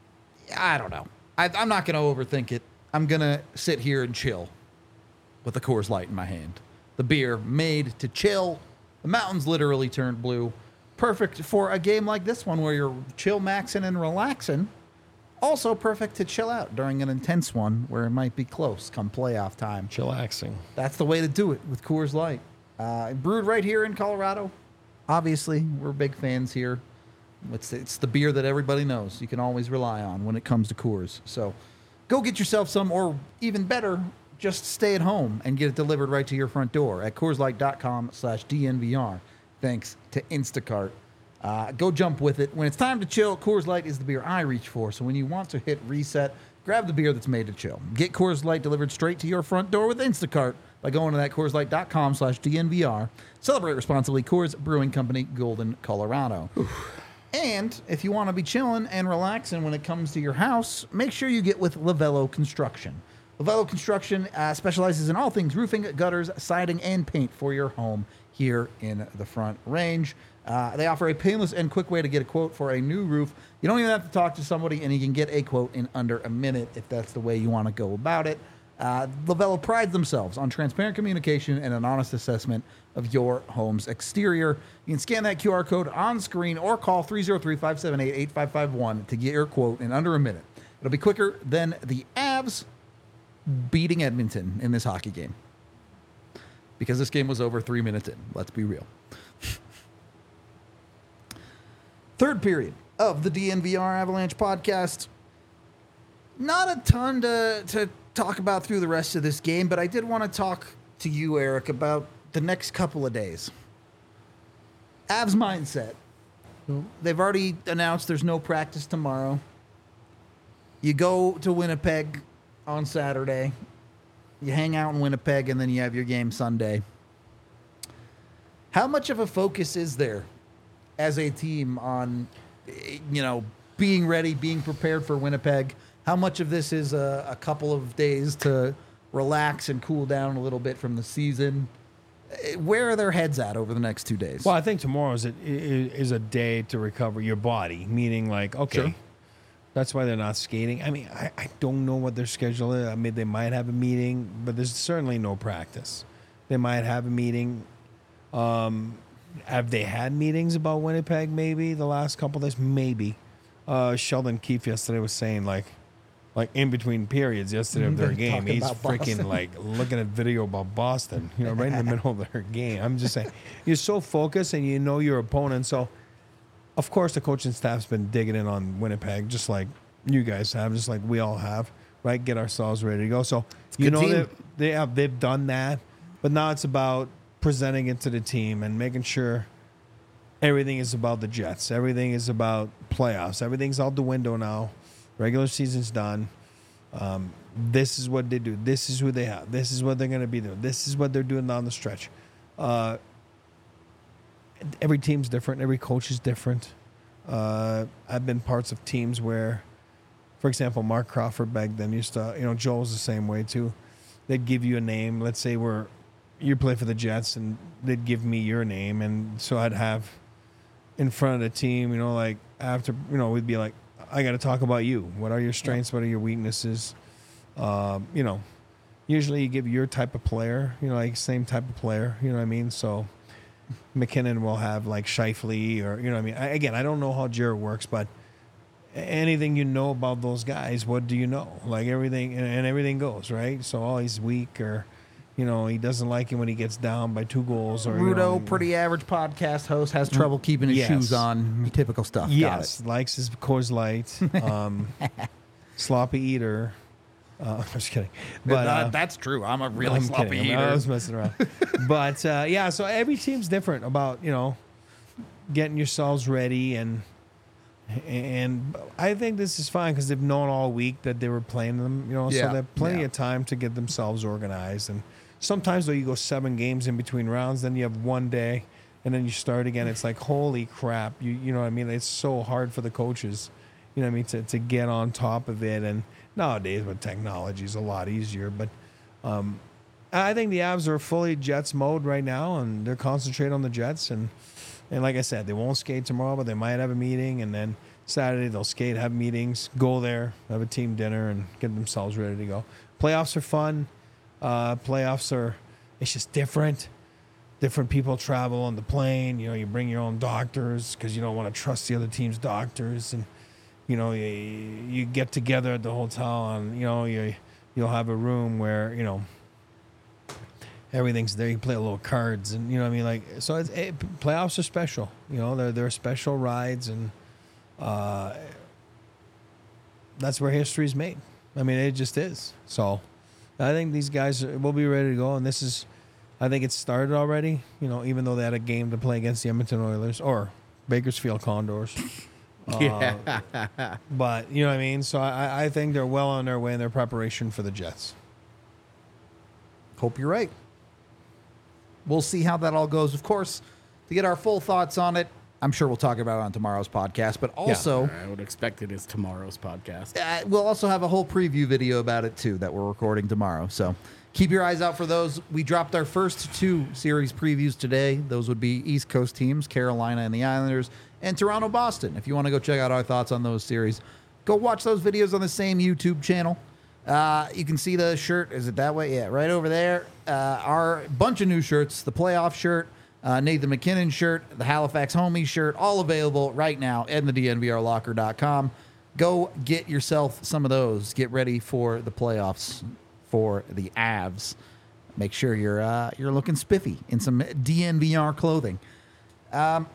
I don't know. I, I'm not going to overthink it. I'm going to sit here and chill with a Coors Light in my hand. The beer made to chill. The mountains literally turned blue. Perfect for a game like this one where you're chill maxing and relaxing. Also perfect to chill out during an intense one where it might be close come playoff time. Chillaxing. That's the way to do it with Coors Light. Uh, brewed right here in Colorado. Obviously, we're big fans here. It's, it's the beer that everybody knows you can always rely on when it comes to Coors. So go get yourself some, or even better, just stay at home and get it delivered right to your front door at CoorsLight.com slash DNVR. Thanks to Instacart. Uh, go jump with it. When it's time to chill, Coors Light is the beer I reach for. So when you want to hit reset, grab the beer that's made to chill. Get Coors Light delivered straight to your front door with Instacart by going to that CoorsLight.com slash DNVR. Celebrate responsibly. Coors Brewing Company, Golden, Colorado. And if you want to be chilling and relaxing when it comes to your house, make sure you get with Lavello Construction. Lavello Construction uh, specializes in all things roofing, gutters, siding, and paint for your home here in the Front Range. Uh, they offer a painless and quick way to get a quote for a new roof. You don't even have to talk to somebody, and you can get a quote in under a minute if that's the way you want to go about it. Uh, Lavello prides themselves on transparent communication and an honest assessment of your home's exterior. You can scan that Q R code on screen or call three oh three, five seven eight, eight five five one to get your quote in under a minute. It'll be quicker than the Avs beating Edmonton in this hockey game. Because this game was over three minutes in. Let's be real. Third period of the D N V R Avalanche podcast. Not a ton to, to talk about through the rest of this game, but I did want to talk to you, Eric, about the next couple of days. Avs mindset. They've already announced there's no practice tomorrow. You go to Winnipeg on Saturday. You hang out in Winnipeg, and then you have your game Sunday. How much of a focus is there as a team on, you know, being ready, being prepared for Winnipeg? How much of this is a, a couple of days to relax and cool down a little bit from the season? Where are their heads at over the next two days? Well, I think tomorrow is a, is a day to recover your body, meaning like, okay, Sure. that's why they're not skating. I mean, I, I don't know what their schedule is. I mean, they might have a meeting, but there's certainly no practice. They might have a meeting. Um, have they had meetings about Winnipeg maybe the last couple days? Maybe. Uh, Sheldon Keefe yesterday was saying, like, like in between periods yesterday of their They're game, talking he's about freaking Boston. like looking at video about Boston, you know, right in the middle of their game. I'm just saying, you're so focused and you know your opponent. So of course, the coaching staff's been digging in on Winnipeg, just like you guys have, just like we all have, right? Get ourselves ready to go. So you good know team. that they have they've done that, but now it's about presenting it to the team and making sure everything is about the Jets. Everything is about playoffs. Everything's out the window now. Regular season's done. Um, this is what they do. This is who they have. This is what they're going to be doing. This is what they're doing down the stretch. Uh, every team's different. Every coach is different. Uh, I've been parts of teams where, for example, Mark Crawford back then used to, you know, Joe was the same way too. They'd give you a name. Let's say we're, you play for the Jets, and they'd give me your name. And so I'd have in front of the team, you know, like after, you know, we'd be like, I got to talk about you. What are your strengths? What are your weaknesses? Um, you know, usually you give your type of player, you know, like same type of player, you know what I mean? So McKinnon will have like Scheifele or, you know what I mean? I, again, I don't know how Jared works, but anything you know about those guys, what do you know? Like everything, and, and everything goes, right? So, oh, he's weak, or, you know, he doesn't like it when he gets down by two goals. Or Rudo, you know, pretty average podcast host, has trouble keeping his Yes. shoes on. Typical stuff. Yes, likes his Coors Light. Um, sloppy eater. Uh, I'm just kidding. Got But it. Uh, uh, that's true. I'm a really I'm sloppy kidding. eater. I was messing around. But uh, yeah, so every team's different about, you know, getting yourselves ready, and and I think this is fine because they've known all week that they were playing them, you know, Yeah, so they have plenty yeah. of time to get themselves organized. And sometimes though you go seven games in between rounds, then you have one day, and then you start again. It's like, holy crap, you you know what I mean? It's so hard for the coaches, you know what I mean, to to get on top of it. And nowadays with technology is a lot easier, but um, I think the Avs are fully Jets mode right now, and they're concentrating on the Jets. And and like I said, they won't skate tomorrow, but they might have a meeting, and then Saturday they'll skate, have meetings, go there, have a team dinner, and get themselves ready to go. Playoffs are fun. Uh, playoffs are, it's just different. Different people travel on the plane. You know, you bring your own doctors because you don't want to trust the other team's doctors. And, you know, you, you get together at the hotel, and, you know, you, you'll have a room where, you know, everything's there. You play a little cards, and, you know what I mean? Like, so it's, it, playoffs are special. You know, they're, they're special rides, and uh, that's where history's made. I mean, it just is. So I think these guys will be ready to go, and this is, I think it's started already, you know, even though they had a game to play against the Edmonton Oilers or Bakersfield Condors. Yeah. Uh, but, you know what I mean? So I, I think they're well on their way in their preparation for the Jets. Hope you're right. We'll see how that all goes. Of course, to get our full thoughts on it, I'm sure we'll talk about it on tomorrow's podcast, but also I would expect it is tomorrow's podcast. uh, we'll also have a whole preview video about it too that we're recording tomorrow. So keep your eyes out for those. We dropped our first two series previews today. Those would be East Coast teams, Carolina and the Islanders, and Toronto, Boston. If you want to go check out our thoughts on those series, go watch those videos on the same YouTube channel. Uh, you can see the shirt. Is it that way? Yeah, right over there. Uh, our bunch of new shirts, the playoff shirt, uh, Nathan McKinnon shirt, the Halifax Homies shirt, all available right now at the D N V R locker dot com. Go get yourself some of those. Get ready for the playoffs for the Avs. Make sure you're uh, you're looking spiffy in some D N V R clothing. Um,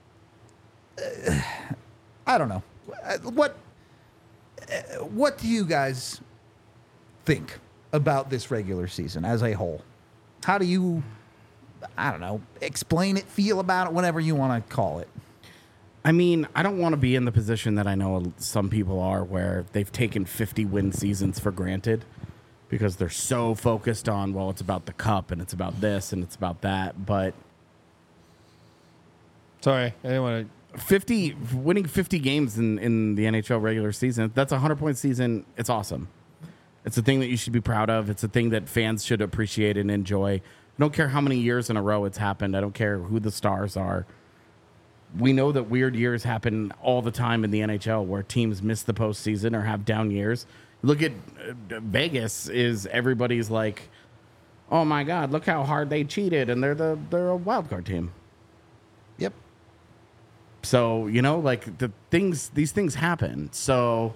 uh, I don't know. Uh, What uh, what do you guys think about this regular season as a whole? How do you, I don't know, explain it, feel about it, whatever you want to call it? I mean, I don't want to be in the position that I know some people are, where they've taken fifty win seasons for granted because they're so focused on, well, it's about the cup and it's about this and it's about that. But Sorry, I didn't want to. fifty winning fifty games in, in the N H L regular season, that's a hundred point season. It's awesome. It's a thing that you should be proud of. It's a thing that fans should appreciate and enjoy. I don't care how many years in a row it's happened. I don't care who the stars are. We know that weird years happen all the time in the N H L where teams miss the postseason or have down years. Look at uh, Vegas. Is everybody's like, oh my God, look how hard they cheated, and they're the they're a wild card team. Yep. So, you know, like the things, these things happen. So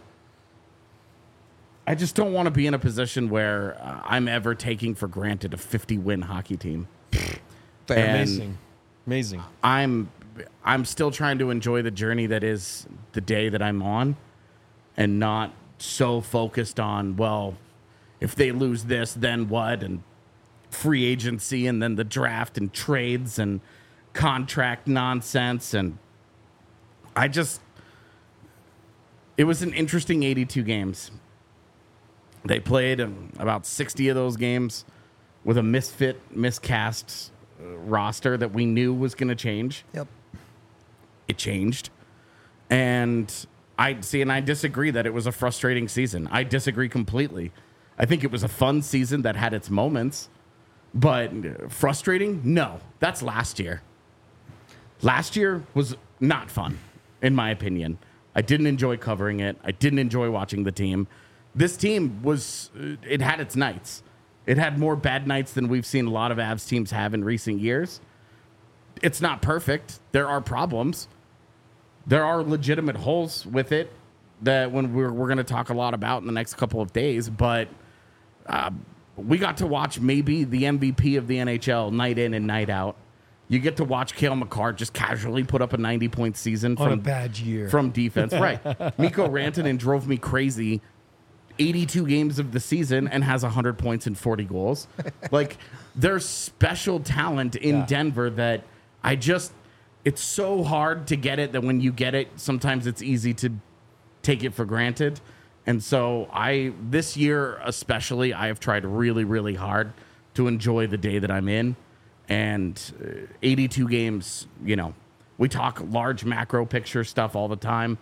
I just don't want to be in a position where uh, I'm ever taking for granted a fifty win hockey team. Fair. And Amazing. Amazing. I'm I'm still trying to enjoy the journey that is the day that I'm on, and not so focused on, well, if they lose this, then what, and free agency, and then the draft and trades and contract nonsense. And I just, it was an interesting eighty-two games. They played um, about sixty of those games with a misfit, miscast uh, roster that we knew was going to change. Yep. It changed. And I see, and I disagree that it was a frustrating season. I disagree completely. I think it was a fun season that had its moments, but frustrating? No, that's last year. Last year was not fun, in my opinion. I didn't enjoy covering it. I didn't enjoy watching the team. This team was, it had its nights. It had more bad nights than we've seen a lot of Avs teams have in recent years. It's not perfect. There are problems. There are legitimate holes with it that when we're, we're going to talk a lot about in the next couple of days, but uh, we got to watch maybe the M V P of the N H L night in and night out. You get to watch Cale Makar just casually put up a ninety-point season On from a bad year. from defense. Right. Mikko Rantanen drove me crazy eighty-two games of the season and has one hundred points and forty goals. Like, there's special talent in Yeah. Denver that I just, it's so hard to get it that when you get it, sometimes it's easy to take it for granted. And so I, this year especially, I have tried really, really hard to enjoy the day that I'm in. And uh, eighty-two games, you know, we talk large macro picture stuff all the time.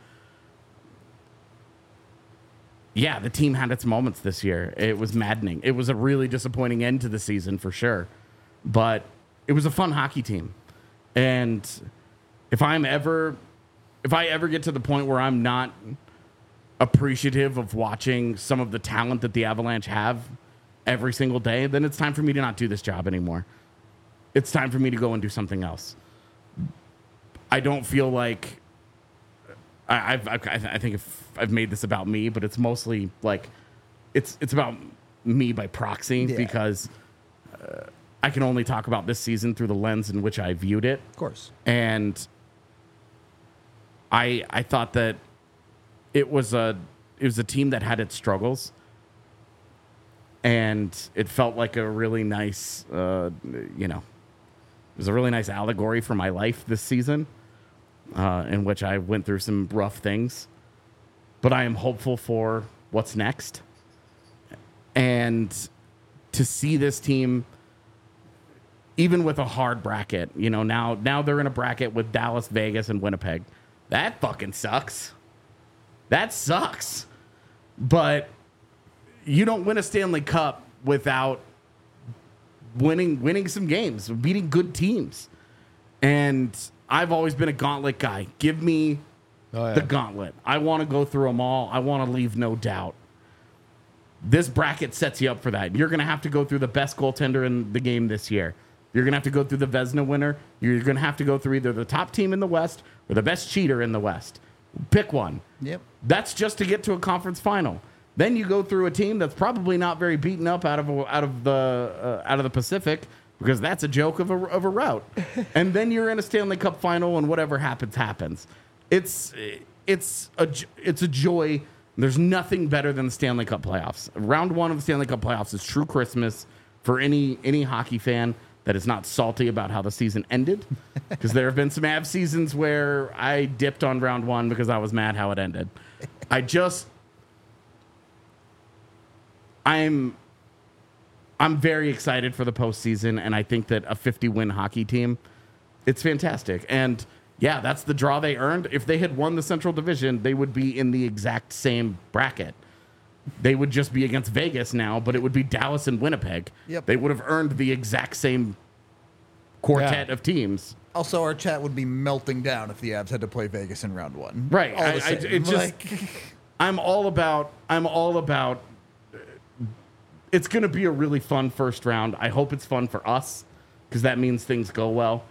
Yeah, the team had its moments this year. It was maddening. It was a really disappointing end to the season for sure. But it was a fun hockey team. And if I'm ever, if I ever get to the point where I'm not appreciative of watching some of the talent that the Avalanche have every single day, then it's time for me to not do this job anymore. It's time for me to go and do something else. I don't feel like I, I've, I've, I think if I've made this about me, but it's mostly like it's it's about me by proxy Yeah. because uh, I can only talk about this season through the lens in which I viewed it. Of course. And I I thought that it was a it was a team that had its struggles, and it felt like a really nice uh, you know it was a really nice allegory for my life this season, uh, in which I went through some rough things, but I am hopeful for what's next, and to see this team. Even with a hard bracket, you know, now now they're in a bracket with Dallas, Vegas, and Winnipeg. That fucking sucks. That sucks. But you don't win a Stanley Cup without winning winning some games, beating good teams. And I've always been a gauntlet guy. Give me Oh, yeah. the gauntlet. I want to go through them all. I want to leave no doubt. This bracket sets you up for that. You're going to have to go through the best goaltender in the game this year. You're going to have to go through the Vezina winner. You're going to have to go through either the top team in the West or the best cheater in the West. Pick one. Yep. That's just to get to a conference final. Then you go through a team that's probably not very beaten up out of out of the uh, out of the Pacific, because that's a joke of a of a route. And then you're in a Stanley Cup final, and whatever happens happens. It's it's a it's a joy. There's nothing better than the Stanley Cup playoffs. Round one of the Stanley Cup playoffs is true Christmas for any any hockey fan that is not salty about how the season ended, because there have been some Avs seasons where I dipped on round one because I was mad how it ended. I just, I'm, I'm very excited for the postseason, and I think that a fifty-win hockey team, it's fantastic. And yeah, that's the draw they earned. If they had won the Central Division, they would be in the exact same bracket. They would just be against Vegas now, but it would be Dallas and Winnipeg. Yep. They would have earned the exact same quartet Yeah. of teams. Also, our chat would be melting down if the Avs had to play Vegas in round one. Right. All I, the I, same. it just, Like, I'm all about, I'm all about, uh, it's going to be a really fun first round. I hope it's fun for us, because that means things go well.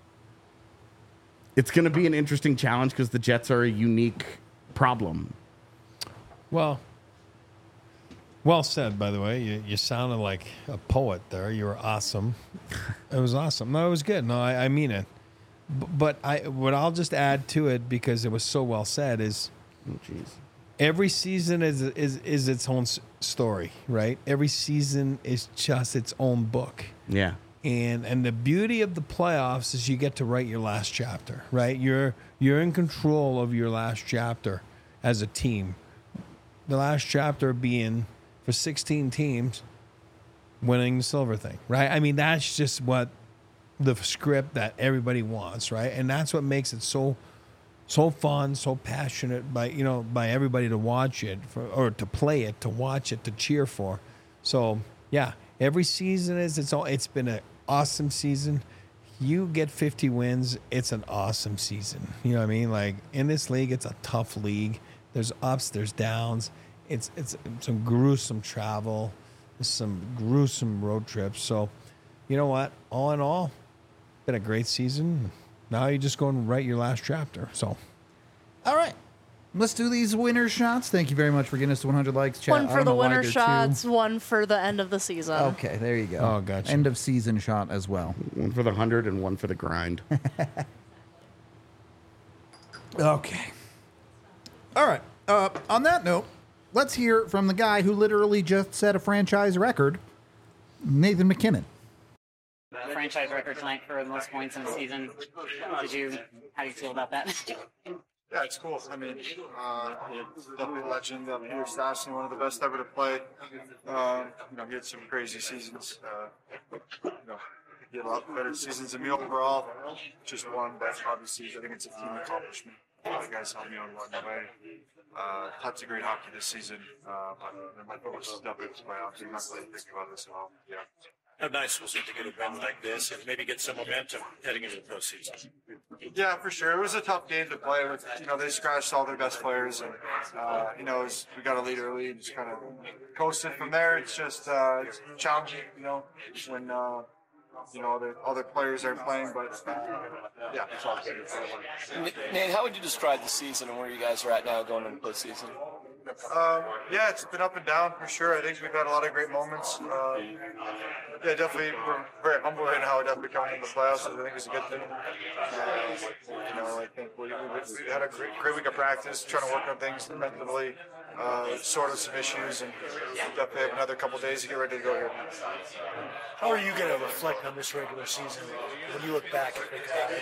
It's going to be an interesting challenge because the Jets are a unique problem. Well, well said, by the way. You, you sounded like a poet there. You were awesome. It was awesome. No, it was good. No, I, I mean it. B- But I, what I'll just add to it because it was so well said is, Oh, jeez. every season is is is its own s- story, right? Every season is just its own book. Yeah. And and the beauty of the playoffs is you get to write your last chapter, right? You're you're in control of your last chapter as a team. The last chapter being for sixteen teams winning the silver thing, right? I mean, that's just what the script that everybody wants, right? And that's what makes it so so fun, so passionate by you know by everybody to watch it for, or to play it, to watch it, to cheer for. So yeah, every season is its own. It's been an awesome season. You get fifty wins, it's an awesome season. You know what I mean? Like in this league, it's a tough league. There's ups, there's downs. It's it's some gruesome travel, some gruesome road trips. So, you know what? All in all, been a great season. Now you just go and write your last chapter. So, All right. Let's do these winner shots. Thank you very much for getting us to one hundred likes, chat. One I for don't the know why winner they're shots, two. one for the end of the season. Okay, there you go. Oh, gotcha. End of season shot as well. One for the hundred and one for the grind. Okay. All right. Uh, on that note, let's hear from the guy who literally just set a franchise record, Nathan McKinnon. Franchise record tonight for the most points in the season. Did you? How do you feel about that? Yeah, it's cool. I mean, uh, definitely a legend. Uh, Peter Stastny, one of the best ever to play. Um, you know, he had some crazy seasons. Uh, you know, he had a lot better seasons than me overall. Just one, but obviously, I think it's a team accomplishment. Uh, you guys helped me on one way. Uh, lots of great hockey this season. Uh, but my focus is definitely the playoffs. I'm not really thinking about this at all. Yeah. How nice was it to get a win like this and maybe get some momentum heading into the postseason? Yeah, for sure. It was a tough game to play with. You know, they scratched all their best players, and uh, you know, it was, we got a lead early and just kind of coasted from there. It's just uh, it's challenging, you know, when uh, you know the other players aren't playing. But uh, yeah, it's all good. Nate, how would you describe the season and where you guys are at now going into the postseason? Um, yeah, it's been up and down for sure. I think we've had a lot of great moments. Uh, yeah, definitely, we're very humble right now. Definitely coming in the playoffs, I think it's a good thing. Uh, you know, I think we, we, we had a great, great week of practice, trying to work on things defensively, uh, sort of some issues, and definitely have another couple days to get ready to go here. How are you going to reflect on this regular season when you look back and think about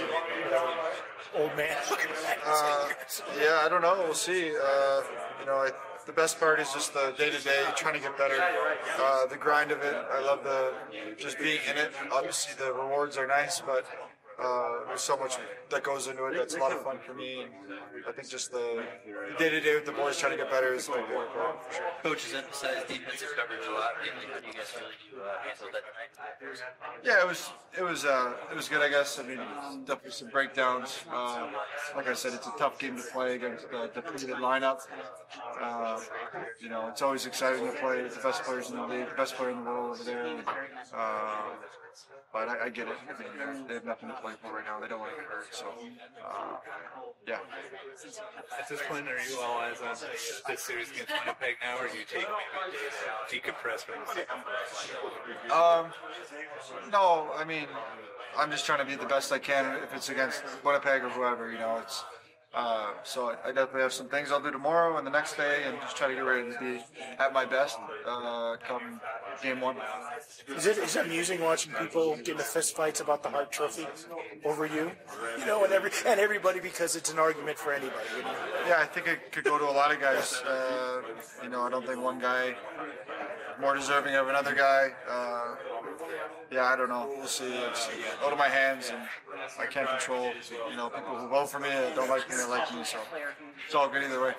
it? Old man looking back. Uh, yeah, I don't know. We'll see. Uh, you know, I, the best part is just the day-to-day, trying to get better. Uh, the grind of it. I love the just being in it. Obviously, the rewards are nice, but uh, there's so much that goes into it. That's a lot of fun for me. And I think just the the day-to-day with the boys trying to get better is like more important for sure. Coaches emphasize defensive coverage a lot. How do you guys really do uh, handle that tonight? Yeah, it was it was uh, it was good, I guess. I mean, definitely some breakdowns. Uh, like I said, it's a tough game to play against the depleted lineup. Uh, you know, it's always exciting to play with the best players in the league, the best player in the world over there. Uh, but I, I get it. I mean, they have nothing to play for right now. They don't want to get hurt. So, uh, yeah. At this point, are you all eyes on this series against Winnipeg now, or do you take maybe a day to decompress from the season? Um, no, I mean, I'm just trying to be the best I can if it's against Winnipeg or whoever, you know, it's, uh, so I, I definitely have some things I'll do tomorrow and the next day and just try to get ready to be at my best, uh, come game one. Is it is it amusing watching people get into fist fights about the Hart Trophy over you? You know, and every and everybody because it's an argument for anybody. You know? Yeah, I think it could go to a lot of guys. Uh, you know, I don't think one guy more deserving of another guy. Uh, yeah, I don't know. We'll see. It's out of my hands, and I can't control. You know, people who vote for me don't like me, they like me. So it's all good either way.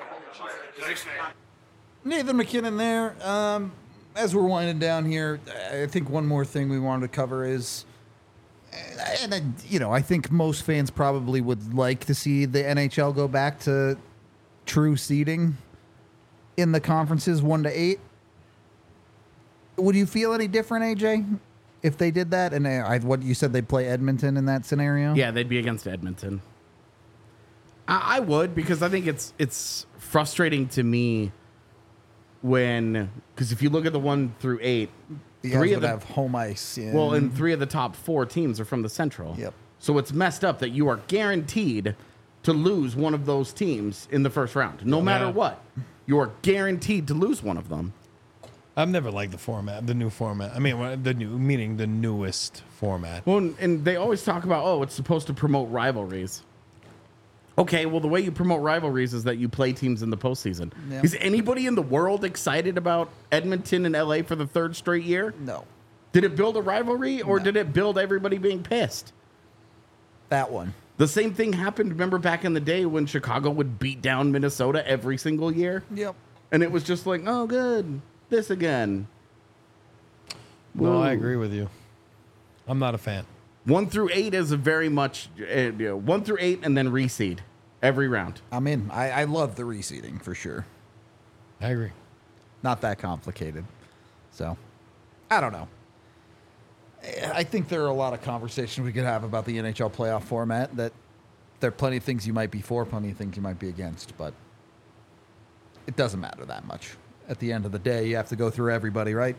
Nathan McKinnon there. Um, as we're winding down here, I think one more thing we wanted to cover is, and uh, you know, I think most fans probably would like to see the N H L go back to true seeding in the conferences, one to eight. Would you feel any different, A J, if they did that? And uh, I, what you said, they'd play Edmonton in that scenario? Yeah, they'd be against Edmonton. I, I would, because I think it's it's frustrating to me when, because if you look at the one through eight, The three guys of would the have home ice. Yeah. well, and three of the top four teams are from the Central. Yep. So it's messed up that you are guaranteed to lose one of those teams in the first round. No matter Yeah. what, you are guaranteed to lose one of them. I've never liked the format, the new format. I mean, well, the new, meaning the newest format. Well, and- and they always talk about, oh, it's supposed to promote rivalries. Okay, well, the way you promote rivalries is that you play teams in the postseason. Yeah. Is anybody in the world excited about Edmonton and L A for the third straight year? No, Did it build a rivalry or No. did it build everybody being pissed? that one. The same thing happened, remember back in the day when Chicago would beat down Minnesota every single year? Yep. And it was just like, oh, good, this again. No, I Woo. agree with you. I'm not a fan. One through eight is a very much, uh, you know, one through eight and then reseed every round. I'm in. I, I love the reseeding for sure. I agree. Not that complicated. So, I don't know. I think there are a lot of conversations we could have about the N H L playoff format. That there are plenty of things you might be for, plenty of things you might be against, but it doesn't matter that much. At the end of the day, you have to go through everybody, right?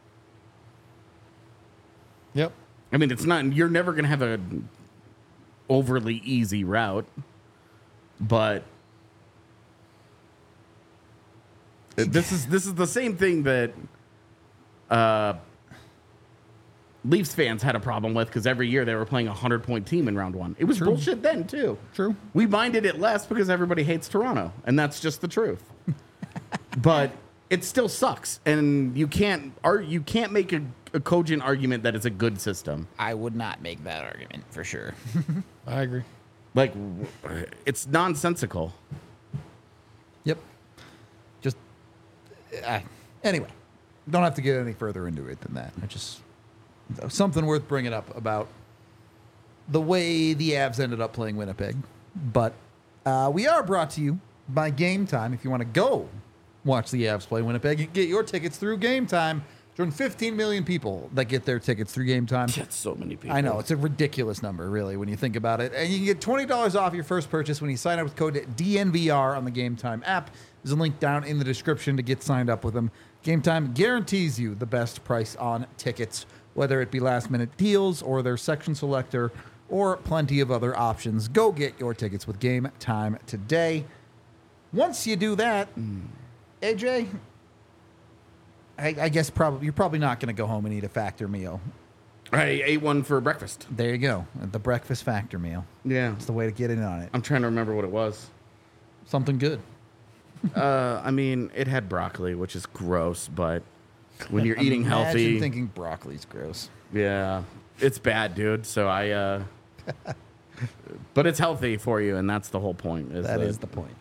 Yep. I mean, it's not, you're never going to have an overly easy route, but this is this is the same thing that uh, Leafs fans had a problem with because every year they were playing a hundred-point team in round one. It was bullshit then, too. True. We minded it less because everybody hates Toronto, and that's just the truth. But it still sucks, and you can't ar- you can't make a, a cogent argument that it's a good system. I would not make that argument for sure. I agree. Like, w- it's nonsensical. Yep. Just uh, anyway, don't have to get any further into it than that. I just something worth bringing up about the way the Avs ended up playing Winnipeg. But uh, we are brought to you by Game Time. If you want to go watch the Avs play Winnipeg, you can get your tickets through Game Time. Join fifteen million people that get their tickets through Game Time. That's so many people. I know, it's a ridiculous number, really, when you think about it. And you can get twenty dollars off your first purchase when you sign up with code D N V R on the Game Time app. There's a link down in the description to get signed up with them. Game Time guarantees you the best price on tickets, whether it be last-minute deals or their section selector or plenty of other options. Go get your tickets with Game Time today. Once you do that, A J, I, I guess probably you're probably not going to go home and eat a Factor meal. I ate one for breakfast. There you go. The breakfast Factor meal. Yeah. It's the way to get in on it. I'm trying to remember what it was. Something good. Uh, I mean, it had broccoli, which is gross, but when you're eating Imagine healthy, thinking broccoli's gross. yeah, it's bad, dude. So I, uh, but it's healthy for you, and that's the whole point. Is That that- is the point.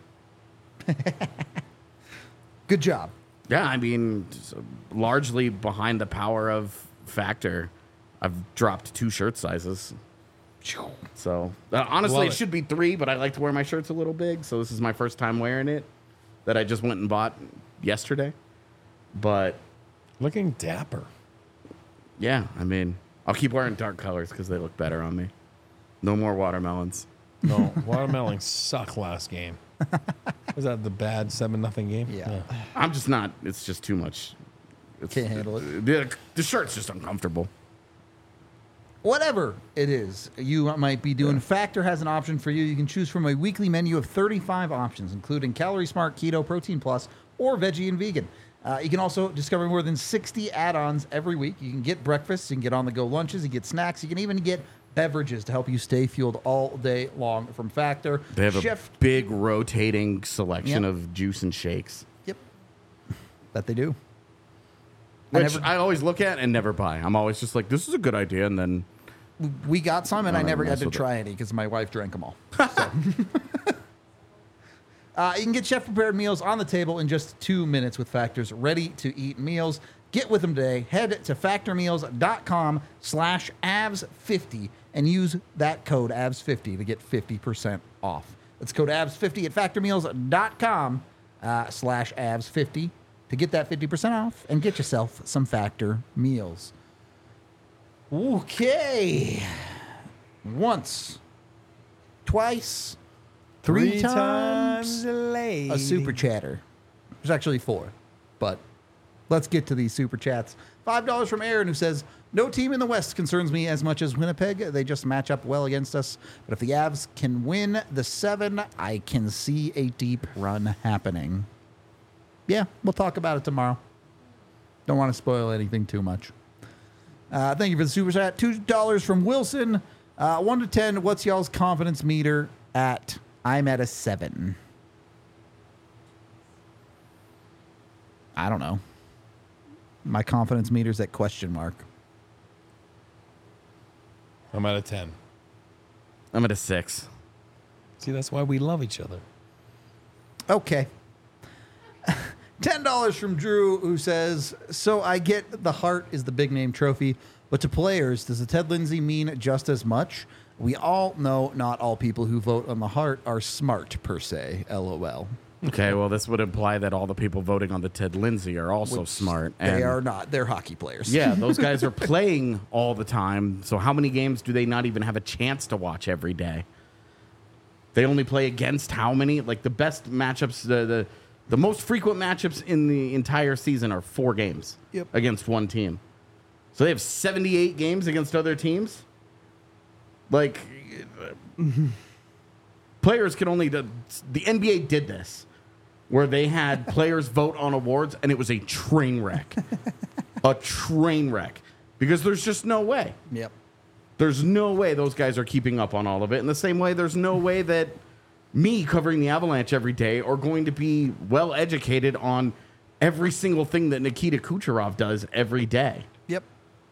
Good job. Yeah, I mean, s- largely behind the power of Factor, I've dropped two shirt sizes. So uh, honestly, Love it it. should be three, but I like to wear my shirts a little big. So this is my first time wearing it that I just went and bought yesterday. But Looking dapper. yeah, I mean, I'll keep wearing dark colors because they look better on me. No more watermelons. No, watermelons suck last game. Was that the bad seven nothing game? Yeah. I'm just not. It's just too much. It's, Can't handle it. The, the shirt's just uncomfortable. Whatever it is you might be doing, Factor has an option for you. You can choose from a weekly menu of thirty-five options, including Calorie Smart, Keto, Protein Plus, or Veggie and Vegan. Uh, you can also discover more than sixty add-ons every week. You can get breakfast, you can get on-the-go lunches, you get snacks, you can even get beverages to help you stay fueled all day long from Factor. They have Chef, a big rotating selection Yep. of juice and shakes, Yep. That they do. I which never- I always look at and never buy. I'm always just like, this is a good idea, and then We got some, and I I don't never mess got to with it. try any because my wife drank them all. So. uh, you can get chef-prepared meals on the table in just two minutes with Factor's ready-to-eat meals. Get with them today. Head to factormeals.com slash avs50 and use that code A V S fifty to get fifty percent off. That's code A V S fifty at factormeals.com uh, slash A V S fifty to get that fifty percent off and get yourself some Factor meals. Okay. Once, twice, three, Three times, times a lady. a super chatter. There's actually four, but let's get to these super chats. five dollars from Aaron, who says, no team in the West concerns me as much as Winnipeg. They just match up well against us. But if the Avs can win the seven, I can see a deep run happening. Yeah, we'll talk about it tomorrow. Don't want to spoil anything too much. Uh, thank you for the super chat. two dollars from Wilson. Uh, one to ten, what's y'all's confidence meter at? I'm at a seven. I don't know. My confidence meter's at question mark. I'm at a ten. I'm at a six. See, that's why we love each other. Okay. ten dollars from Drew, who says, so I get the Hart is the big name trophy, but to players, does the Ted Lindsay mean just as much? We all know not all people who vote on the Hart are smart, per se. LOL. Okay, well, this would imply that all the people voting on the Ted Lindsay are also Which smart. They and are not. They're hockey players. Yeah, those guys are playing all the time. So how many games do they not even have a chance to watch every day? They only play against how many? Like the best matchups, the the, the most frequent matchups in the entire season are four games Yep. against one team. So they have seventy-eight games against other teams? Like, players can only... The, the N B A did this, where they had players vote on awards, and it was a train wreck. A train wreck. Because there's just no way. Yep. There's no way those guys are keeping up on all of it. In the same way, there's no way that me covering the Avalanche every day are going to be well educated on every single thing that Nikita Kucherov does every day. Yep.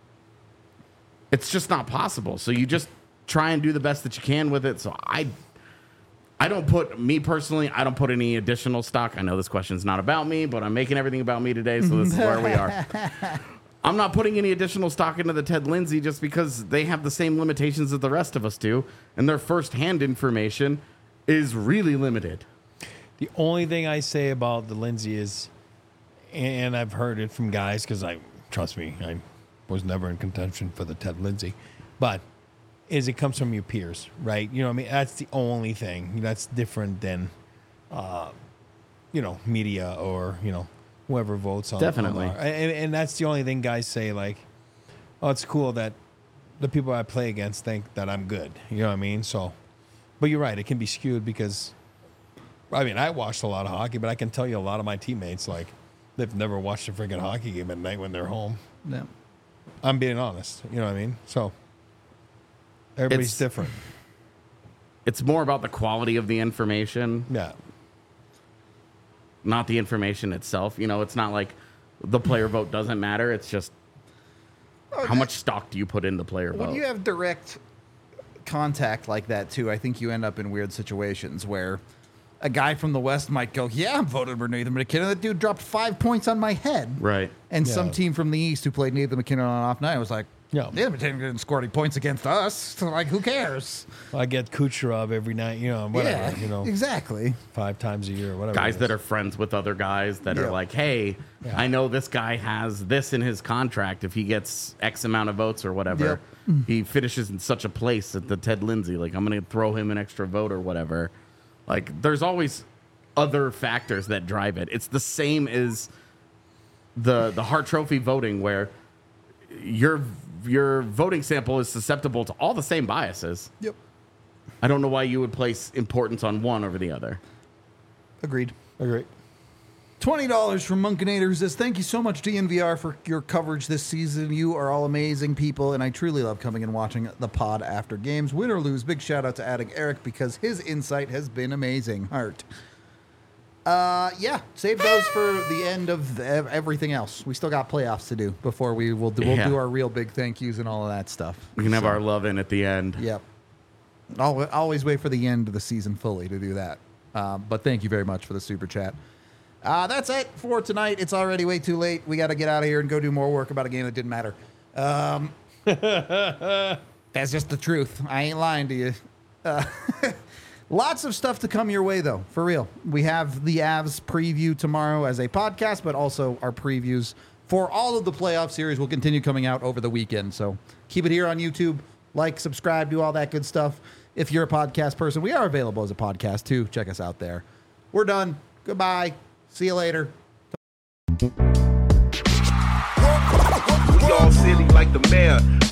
It's just not possible. So you just try and do the best that you can with it. So I I don't put, me personally, I don't put any additional stock. I know this question's not about me, but I'm making everything about me today, so this is where we are. I'm not putting any additional stock into the Ted Lindsay just because they have the same limitations that the rest of us do, and their first-hand information is really limited. The only thing I say about the Lindsay is, and I've heard it from guys, because I, trust me, I was never in contention for the Ted Lindsay, but is it comes from your peers, right? You know what I mean? That's the only thing. That's different than, uh, you know, media or, you know, whoever votes on. Definitely. On our, and, and that's the only thing guys say, like, oh, it's cool that the people I play against think that I'm good. You know what I mean? So, but you're right. It can be skewed because, I mean, I watched a lot of hockey, but I can tell you a lot of my teammates, like, they've never watched a freaking hockey game at night when they're home. No. I'm being honest. You know what I mean? So, everybody's It's- different. It's more about the quality of the information, Yeah. not the information itself. You know, it's not like the player vote doesn't matter. It's just how much stock do you put in the player When vote? you have direct contact like that, too, I think you end up in weird situations where a guy from the West might go, yeah, I'm voting for Nathan McKinnon. That dude dropped five points on my head. Right. And Yeah. some team from the East who played Nathan McKinnon on an off night was like, Yeah. Nathan McKinnon didn't score any points against us. So, like, who cares? I get Kucherov every night, you know, whatever, yeah, you know, exactly. five times a year, whatever. Guys it that is. are friends with other guys that Yeah. are like, hey, Yeah. I know this guy has this in his contract. If he gets X amount of votes or whatever, he finishes in such a place at the Ted Lindsay. Like, I'm going to throw him an extra vote or whatever. Like, there's always other factors that drive it. It's the same as the the Hart Trophy voting, where your your voting sample is susceptible to all the same biases. Yep. I don't know why you would place importance on one over the other. Agreed. Agree. twenty dollars from Monkinator, who says, thank you so much, D N V R, for your coverage this season. You are all amazing people, and I truly love coming and watching the pod after games. Win or lose, big shout out to Addict Eric because his insight has been amazing. Heart. Uh, yeah, save those for the end of the, ev- everything else. We still got playoffs to do before we will do, we'll Yeah. do our real big thank yous and all of that stuff. We can have our love in at the end. Yep. I'll always wait for the end of the season fully to do that. Um, but thank you very much for the super chat. Uh, that's it for tonight. It's already way too late. We got to get out of here and go do more work about a game that didn't matter. Um, that's just the truth. I ain't lying to you. Uh, lots of stuff to come your way, though, for real. We have the Avs preview tomorrow as a podcast, but also our previews for all of the playoff series will continue coming out over the weekend. So keep it here on YouTube. Like, subscribe, do all that good stuff. If you're a podcast person, we are available as a podcast, too. Check us out there. We're done. Goodbye. See you later. like the mayor.